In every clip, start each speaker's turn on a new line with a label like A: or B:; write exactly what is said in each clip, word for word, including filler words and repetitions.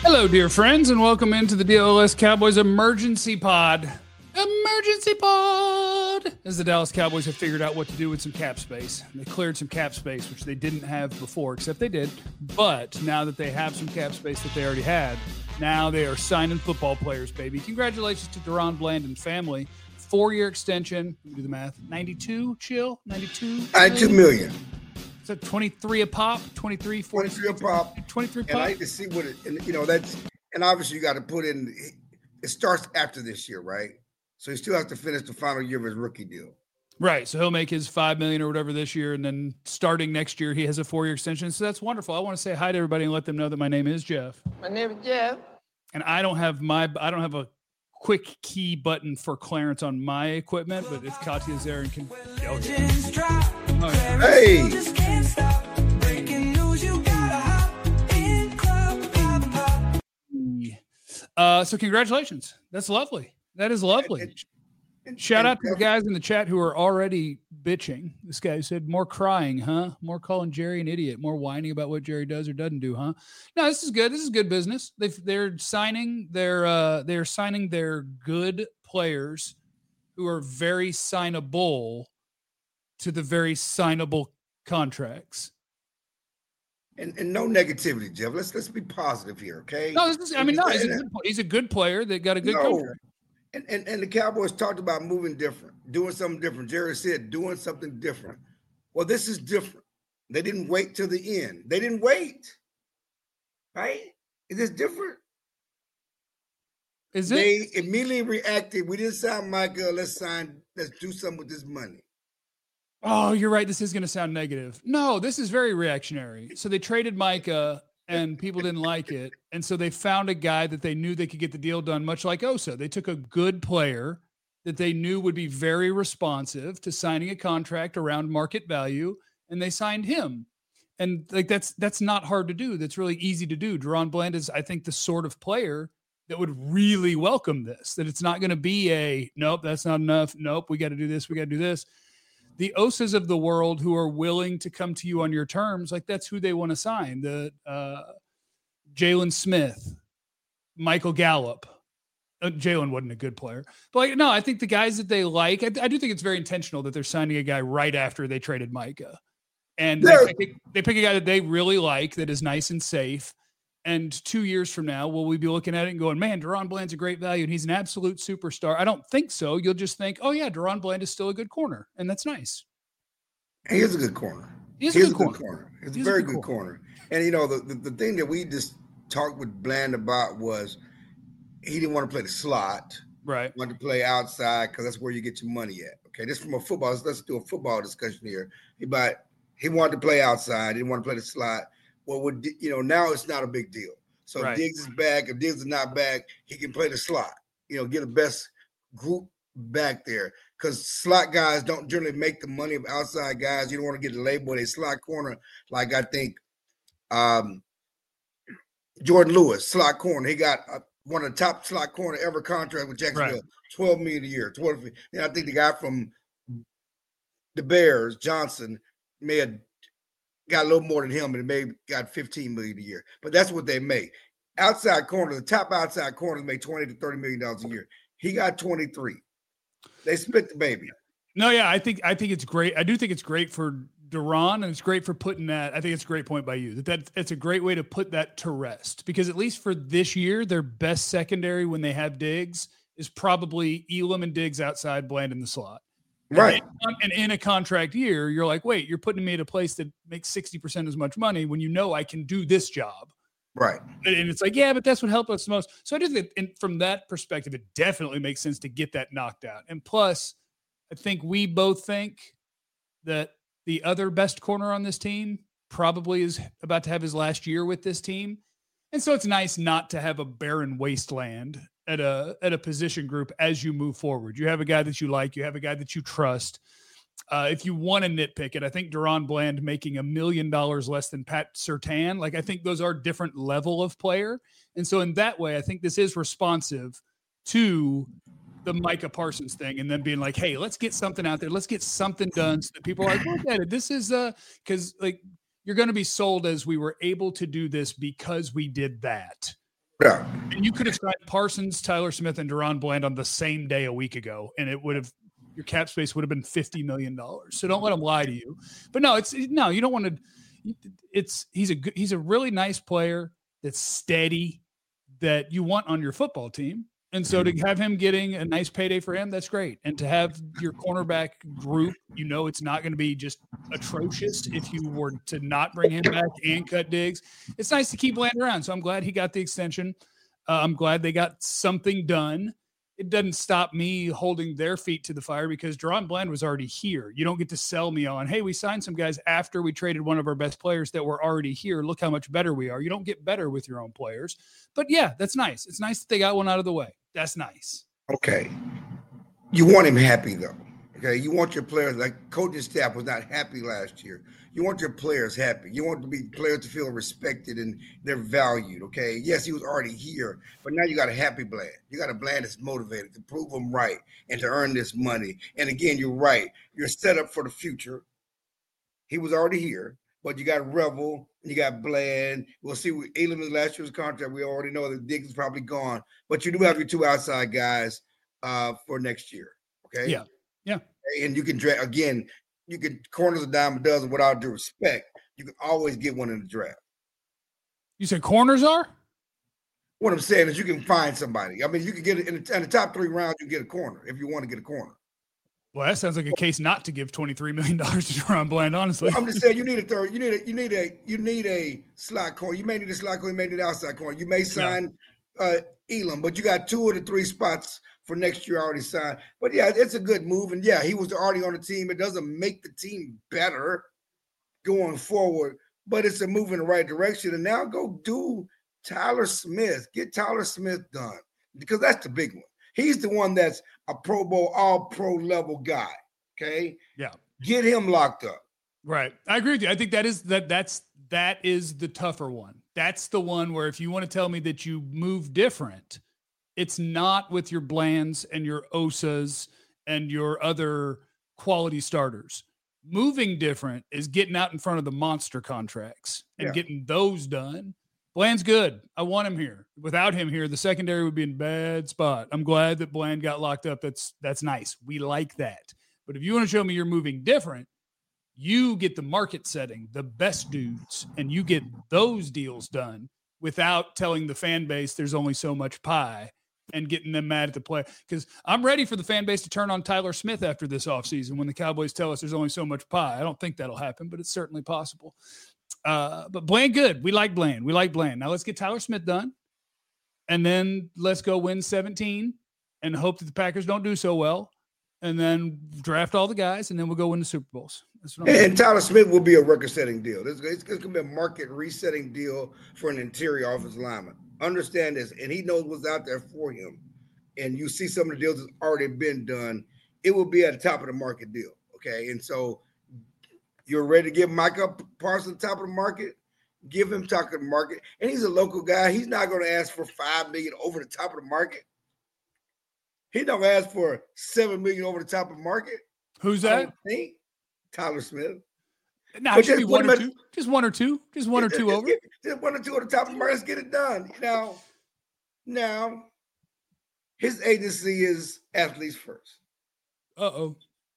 A: Hello, dear friends, and welcome into the D L S Cowboys Emergency Pod. Emergency Pod! As the Dallas Cowboys have figured out what to do with some cap space. They cleared some cap space, which they didn't have before, except they did. But now that they have some cap space that they already had, now they are signing football players, baby. Congratulations to DaRon Bland and family. Four-year extension. Let me do the math. ninety-two, chill? ninety-two?
B: ninety-two million.
A: Is that twenty-three a pop? twenty-three, forty,
B: twenty-three a pop.
A: twenty-three pop.
B: And I like to see what it, and you know, that's, and obviously you got to put in, it starts after this year, right? So he still has to finish the final year of his rookie deal.
A: Right. So he'll make his five million dollars or whatever this year. And then starting next year, he has a four-year extension. So that's wonderful. I want to say hi to everybody and let them know that my name is Jeff.
C: My name is Jeff.
A: And I don't have my, I don't have a quick key button for Clarence on my equipment, but if Katya's there and can, oh, yeah. Oh, yeah.
B: Hey.
A: Uh, so congratulations. That's lovely. That is lovely.
B: And, and,
A: Shout
B: and,
A: out to the guys in the chat who are already bitching. This guy said, more crying, huh? More calling Jerry an idiot, more whining about what Jerry does or doesn't do, huh? No, this is good. This is good business. They've, they're signing their, uh, they're signing their good players who are very signable to the very signable contracts.
B: And, and no negativity, Jeff. Let's let's be positive here, okay?
A: No, this is, I mean, no, he's a good, he's a good player that got a good
B: no.
A: contract.
B: And, and and the Cowboys talked about moving different, doing something different. Jerry said doing something different. Well, this is different. They didn't wait till the end. They didn't wait. Right? Is this different?
A: Is it?
B: They immediately reacted. We didn't sign Micah. Let's sign. Let's do something with this money.
A: Oh, you're right. This is going to sound negative. No, this is very reactionary. So they traded Micah and people didn't like it. And so they found a guy that they knew they could get the deal done, much like Osa. They took a good player that they knew would be very responsive to signing a contract around market value, and they signed him. And like that's that's not hard to do. That's really easy to do. DaRon Bland is, I think, the sort of player that would really welcome this, that it's not going to be a, nope, that's not enough. Nope, we got to do this. We got to do this. The Osas of the world who are willing to come to you on your terms, like that's who they want to sign. The uh, Jalen Smith, Michael Gallup. Uh, Jalen wasn't a good player. But like, no, I think the guys that they like, I, I do think it's very intentional that they're signing a guy right after they traded Micah. And they pick, they pick a guy that they really like, that is nice and safe. And two years from now, will we be looking at it and going, man, DaRon Bland's a great value and he's an absolute superstar? I don't think so. You'll just think, oh, yeah, DaRon Bland is still a good corner. And that's nice.
B: He is a good corner.
A: He is
B: he
A: a
B: is
A: good,
B: a good
A: corner.
B: corner. He's,
A: He's
B: a very
A: a good
B: good
A: corner.
B: corner. And, you know, the, the, the thing that we just talked with Bland about was he didn't want to play the slot.
A: Right.
B: He wanted to play outside because that's where you get your money at. Okay, this from a football. Let's, let's do a football discussion here. He, but he wanted to play outside. He didn't want to play the slot. Well, would you know, now it's not a big deal. So
A: right.
B: if Diggs is back, if Diggs is not back, he can play the slot. You know, get the best group back there. Because slot guys don't generally make the money of outside guys. You don't want to get labeled a slot corner like I think um, Jordan Lewis, slot corner. He got uh, one of the top slot corner ever contract with Jacksonville, right. twelve million dollars a year. twelve, and I think the guy from the Bears, Johnson, may have got a little more than him, and may have got fifteen million dollars a year. But that's what they make. Outside corner, the top outside corners make twenty to thirty million dollars a year. He got twenty-three. They split the baby.
A: No, yeah, I think I think it's great. I do think it's great for DaRon, and it's great for putting that. I think it's a great point by you that, that it's a great way to put that to rest, because at least for this year, their best secondary when they have Diggs is probably Elam and Diggs outside, Bland in the slot.
B: Right.
A: And, and in a contract year, you're like, wait, you're putting me at a place that makes sixty percent as much money when you know I can do this job.
B: Right.
A: And it's like, yeah, but that's what helped us the most. So I do think and from that perspective, it definitely makes sense to get that knocked out. And plus, I think we both think that the other best corner on this team probably is about to have his last year with this team. And so it's nice not to have a barren wasteland at a at a position group as you move forward. You have a guy that you like. You have a guy that you trust. Uh, if you want to nitpick it, I think DaRon Bland making a million dollars less than Pat Surtain, like I think those are different level of player. And so in that way, I think this is responsive to the Micah Parsons thing and then being like, hey, let's get something out there. Let's get something done so that people are like, look at it. This is uh because like you're going to be sold as we were able to do this because we did that.
B: Yeah.
A: And you could have signed Parsons, Tyler Smith, and Deron Bland on the same day a week ago, and it would have your cap space would have been fifty million dollars. So don't let them lie to you. But no, it's no, you don't want to. It's he's a good, he's a really nice player that's steady that you want on your football team. And so to have him getting a nice payday for him, that's great. And to have your cornerback group, you know, it's not going to be just atrocious if you were to not bring him back and cut Diggs. It's nice to keep Bland around. So I'm glad he got the extension. Uh, I'm glad they got something done. It doesn't stop me holding their feet to the fire because Deron Bland was already here. You don't get to sell me on, hey, we signed some guys after we traded one of our best players that were already here. Look how much better we are. You don't get better with your own players. But yeah, that's nice. It's nice that they got one out of the way. That's nice.
B: Okay. You want him happy, though. Okay. You want your players, like coaching staff was not happy last year. You want your players happy. You want to be players to feel respected and they're valued. Okay. Yes, he was already here, but now you got a happy Bland. You got a Bland that's motivated to prove him right and to earn this money. And again, you're right. You're set up for the future. He was already here, but you got Revel and you got Bland. We'll see what Elam's last year's contract. We already know that Diggs is probably gone, but you do have your two outside guys uh, for next year. Okay.
A: Yeah. Yeah.
B: And you can draft again. You can corners a dime a dozen without due respect. You can always get one in the draft.
A: You said corners are?
B: What I'm saying is you can find somebody. I mean, you can get it in the, in the top three rounds. You get a corner if you want to get a corner.
A: Well, that sounds like a case not to give twenty-three million dollars to Deron Bland, honestly.
B: Well, I'm just saying you need a third. You need a you need a you need a slot corner. You may need a slot corner. You may need an outside corner. You may sign yeah. uh, Elam, but you got two of the three spots for next year already signed. But yeah, it's a good move. And yeah, he was already on the team. It doesn't make the team better going forward, but it's a move in the right direction. And now go do Tyler Smith. Get Tyler Smith done because that's the big one. He's the one that's a Pro Bowl, all pro level guy. Okay.
A: Yeah.
B: Get him locked up.
A: Right. I agree with you. I think that is that that's that is the tougher one. That's the one where if you want to tell me that you move different, it's not with your Blands and your Osas and your other quality starters. Moving different is getting out in front of the monster contracts and yeah. getting those done. Bland's good. I want him here. Without him here, the secondary would be in a bad spot. I'm glad that Bland got locked up. That's that's nice. We like that. But if you want to show me you're moving different, you get the market setting, the best dudes, and you get those deals done without telling the fan base there's only so much pie and getting them mad at the play. Because I'm ready for the fan base to turn on Tyler Smith after this offseason when the Cowboys tell us there's only so much pie. I don't think that'll happen, but it's certainly possible. Uh, but Bland, good. We like Bland. We like Bland. Now let's get Tyler Smith done. And then let's go win seventeen and hope that the Packers don't do so well. And then draft all the guys, and then we'll go win the Super Bowls. That's what I'm
B: and,
A: saying.
B: and Tyler Smith will be a record-setting deal. It's, it's, it's going to be a market-resetting deal for an interior offensive lineman. Understand this, and he knows what's out there for him. And you see some of the deals that's already been done. It will be at the top of the market deal, okay? And so you're ready to give Micah Parsons top of the market? Give him top of the market. And he's a local guy. He's not going to ask for five million dollars over the top of the market. He don't ask for seven million dollars over the top of the market.
A: Who's that?
B: Think. Tyler Smith.
A: No, nah, it should be one or two. Just one or two. Just one or two over.
B: Get, just one or two on the top of the market. Let's get it done. Now, now, his agency is Athletes First.
A: Uh-oh.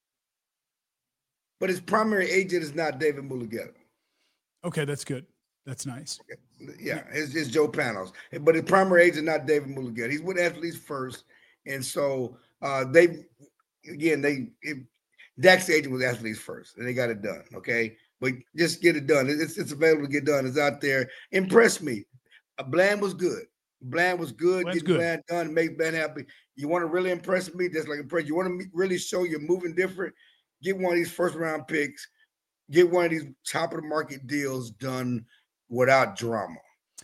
B: But his primary agent is not David Mulugheta.
A: Okay, that's good. That's nice.
B: Okay. Yeah, it's, it's Joe Panos. But his primary agent is not David Mulugheta. He's with Athletes First. And so uh, they, again, they, it, Dak's agent was Athletes First, and they got it done, okay? But just get it done. It's, it's available to get done. It's out there. Impress me. Uh, Bland was good. Bland was good.
A: Bland's
B: get
A: good.
B: Bland done, make Bland happy. You want to really impress me? Just like impress. You want to really show you're moving different? Get one of these first-round picks. Get one of these top-of-the-market deals done without drama.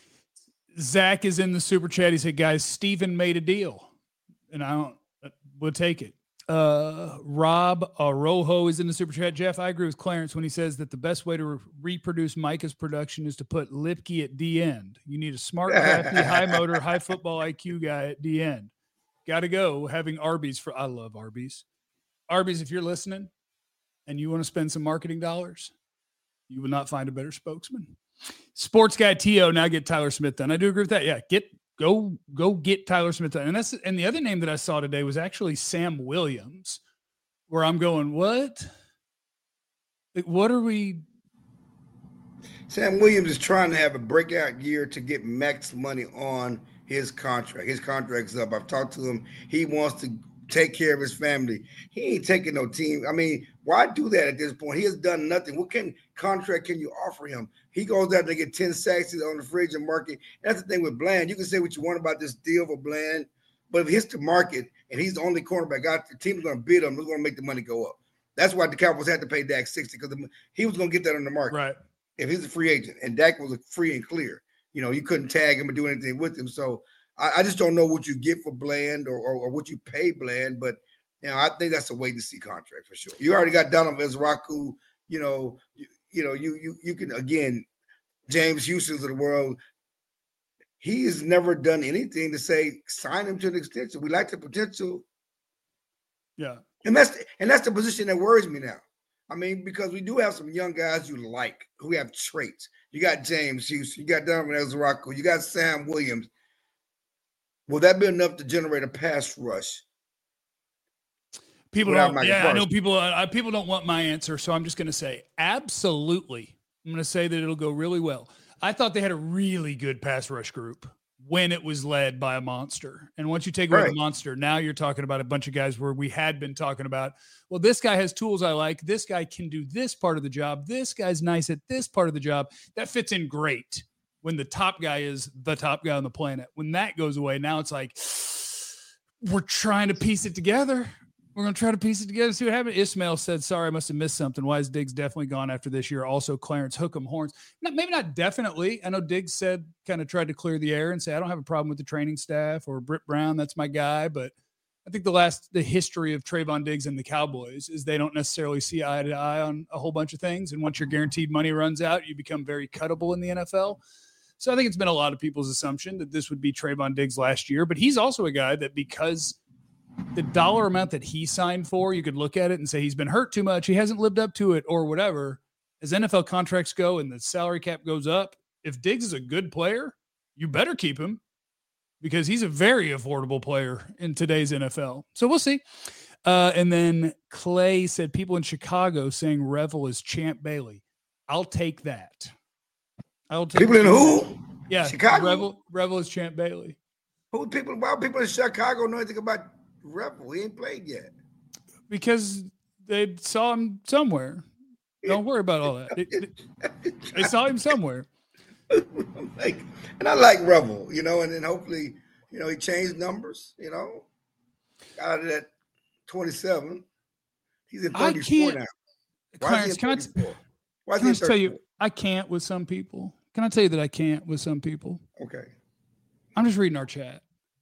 A: Zach is in the super chat. He said, guys, Steven made a deal. And I don't, we'll take it. Uh, Rob Arojo is in the super chat. Jeff, I agree with Clarence when he says that the best way to re- reproduce Micah's production is to put Lipke at D end. You need a smart, crafty, high motor, high football I Q guy at D end. Got to go having Arby's for, I love Arby's. Arby's, if you're listening and you want to spend some marketing dollars, you will not find a better spokesman. Sports guy T O, now get Tyler Smith done. I do agree with that. Yeah, get Go go get Tyler Smith. And that's and the other name that I saw today was actually Sam Williams, where I'm going, what? Like, what are we?
B: Sam Williams is trying to have a breakout year to get max money on his contract. His contract's up. I've talked to him. He wants to take care of his family. He ain't taking no team. I mean, why do that at this point? He has done nothing. What can contract can you offer him? He goes out to get ten sacks on the free agent market. That's the thing with Bland. You can say what you want about this deal for Bland, but if it hits the market and he's the only cornerback out, the team's going to bid him. They're going to make the money go up. That's why the Cowboys had to pay Dak sixty because he was going to get that on the market.
A: Right.
B: If he's a free agent and Dak was a free and clear, you know, you couldn't tag him or do anything with him. So I, I just don't know what you get for Bland or, or, or what you pay Bland, but you know, I think that's a wait to see contract for sure. You already got Donovan Ezraku, you know, you, you know, you you you can again, James Houston's of the world. He has never done anything to say sign him to an extension. We like the potential.
A: Yeah.
B: And that's the, and that's the position that worries me now. I mean, because we do have some young guys you like who have traits. You got James Houston, you got Donovan Ezraku, you got Sam Williams. Will that be enough to generate a pass rush?
A: People don't. Yeah, Parsons? I know people. Uh, people don't want my answer, so I'm just going to say absolutely. I'm going to say that it'll go really well. I thought they had a really good pass rush group when it was led by a monster. And once you take away right. the monster, now you're talking about a bunch of guys where we had been talking about, well, this guy has tools I like. This guy can do this part of the job. This guy's nice at this part of the job. That fits in great when the top guy is the top guy on the planet. When that goes away, now it's like, we're trying to piece it together. We're going to try to piece it together, see what happens. Ismail said, sorry, I must have missed something. Why is Diggs definitely gone after this year? Also, Clarence Hook'em Horns. Not, maybe not definitely. I know Diggs said, kind of tried to clear the air and say, I don't have a problem with the training staff or Britt Brown. That's my guy. But I think the last, the history of Trayvon Diggs and the Cowboys is they don't necessarily see eye to eye on a whole bunch of things. And once your guaranteed money runs out, you become very cuttable in the N F L. So I think it's been a lot of people's assumption that this would be Trayvon Diggs last year. But he's also a guy that because the dollar amount that he signed for, you could look at it and say he's been hurt too much. He hasn't lived up to it or whatever. As N F L contracts go and the salary cap goes up, if Diggs is a good player, you better keep him because he's a very affordable player in today's N F L. So we'll see. Uh, and then Clay said people in Chicago saying Revel is Champ Bailey. I'll take that. I'll take
B: people in who?
A: Yeah.
B: Chicago.
A: Revel, Revel is Champ Bailey.
B: Who people, why people in Chicago know anything about Revel? He ain't played yet.
A: Because they saw him somewhere. Don't worry about all that. It, it, they saw him somewhere.
B: like, and I like Revel, you know, and then hopefully, you know, he changed numbers, you know, out of that twenty-seven. He's in thirty-four now.
A: Why Clarence, is he in thirty-four? Why is he in thirty-four? Tell you, I can't with some people. Can I tell you that I can't with some people?
B: Okay.
A: I'm just reading our chat.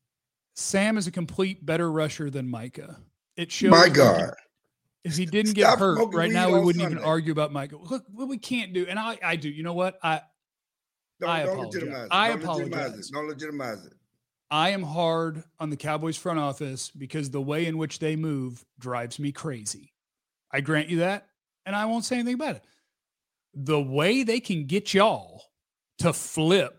A: Sam is a complete better rusher than Micah. It shows.
B: My God.
A: If he didn't Stop get hurt right now, we wouldn't Sunday. even argue about Micah. Look, what we can't do, and I, I do. You know what? I,
B: don't,
A: I
B: don't
A: apologize.
B: Legitimize it.
A: I
B: don't
A: apologize.
B: Legitimize it. Don't legitimize it.
A: I am hard on the Cowboys front office because the way in which they move drives me crazy. I grant you that, and I won't say anything about it. The way they can get y'all to flip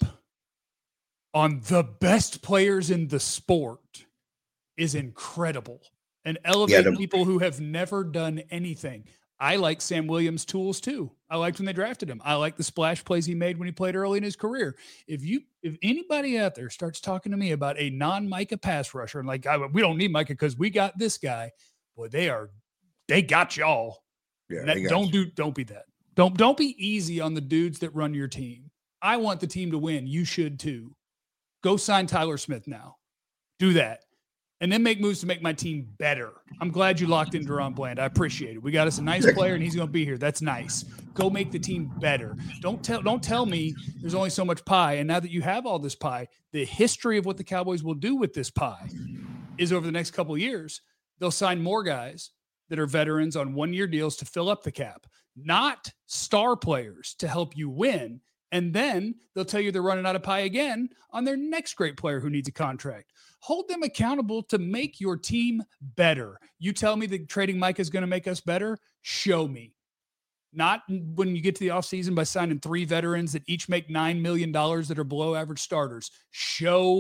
A: on the best players in the sport is incredible and elevate yeah, the- people who have never done anything. I like Sam Williams' tools too. I liked when they drafted him. I like the splash plays he made when he played early in his career. If you, if anybody out there starts talking to me about a non-Micah pass rusher and like, I, we don't need Micah because we got this guy, boy, they are, they got y'all.
B: Yeah,
A: that,
B: got
A: don't
B: you.
A: do, don't be that. Don't, don't be easy on the dudes that run your team. I want the team to win. You should too. Go sign Tyler Smith now. Do that. And then make moves to make my team better. I'm glad you locked in Deron Bland. I appreciate it. We got us a nice player, and he's going to be here. That's nice. Go make the team better. Don't tell don't tell me there's only so much pie. And now that you have all this pie, the history of what the Cowboys will do with this pie is over the next couple of years, they'll sign more guys that are veterans on one-year deals to fill up the cap, not star players to help you win. And then they'll tell you they're running out of pie again on their next great player who needs a contract. Hold them accountable to make your team better. You tell me that trading Micah is going to make us better? Show me. Not when you get to the offseason by signing three veterans that each make nine million dollars that are below average starters. Show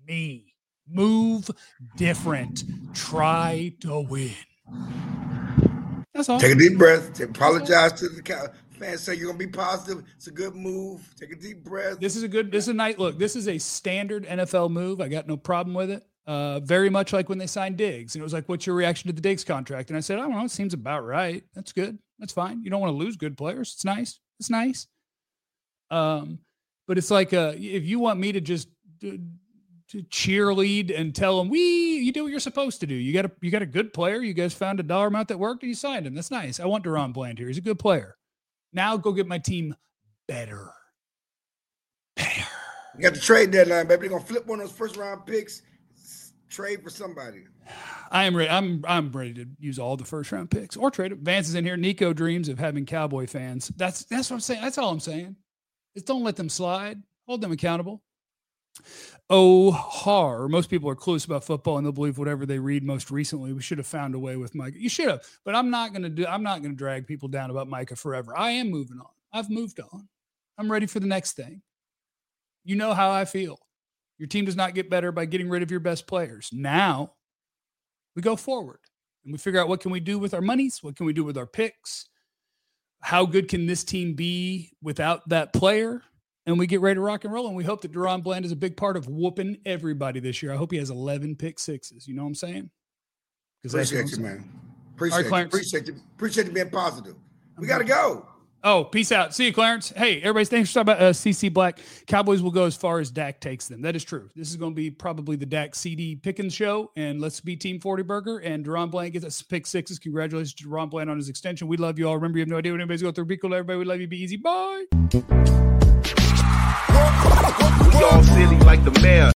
A: me. Move different. Try to win. That's all.
B: Take a deep breath. Apologize to the fans. Say you're gonna be positive. It's a good move. Take a deep breath.
A: This is a good. This is a night. Look, this is a standard N F L move. I got no problem with it. Uh, very much like when they signed Diggs, and it was like, "What's your reaction to the Diggs contract?" And I said, "I don't know. It seems about right. That's good. That's fine. You don't want to lose good players. It's nice. It's nice." Um, but it's like, uh, if you want me to just to, to cheerlead and tell them, "We, you do what you're supposed to do. You got a, you got a good player. You guys found a dollar amount that worked, and you signed him. That's nice. I want DaRon Bland here. He's a good player. Now go get my team better, better."
B: You got the trade deadline, baby. They're gonna flip one of those first round picks. Trade for somebody.
A: I am ready. I'm I'm ready to use all the first round picks or trade it. Vance is in here. Nico dreams of having Cowboy fans. That's that's what I'm saying. That's all I'm saying. Is don't let them slide. Hold them accountable. Oh, har. Most people are clueless about football and they'll believe whatever they read most recently. We should have found a way with Micah. You should have, but I'm not gonna do. I'm not gonna drag people down about Micah forever. I am moving on. I've moved on. I'm ready for the next thing. You know how I feel. Your team does not get better by getting rid of your best players. Now we go forward and we figure out what can we do with our monies? What can we do with our picks? How good can this team be without that player? And we get ready to rock and roll. And we hope that DaRon Bland is a big part of whooping everybody this year. I hope he has eleven pick sixes. You know what I'm saying?
B: Appreciate you, man. Appreciate right, you. Appreciate you. Appreciate you being positive. We got to go.
A: Oh, peace out. See you, Clarence. Hey, everybody, thanks for talking about uh, C C Black. Cowboys will go as far as Dak takes them. That is true. This is going to be probably the Dak C D Pickens show, and let's be Team forty Burger. And DaRon Bland gets us pick sixes. Congratulations to DaRon Bland on his extension. We love you all. Remember, you have no idea what anybody's going through. Be cool, everybody. We love you. Be easy. Bye.
C: We all silly like the mayor.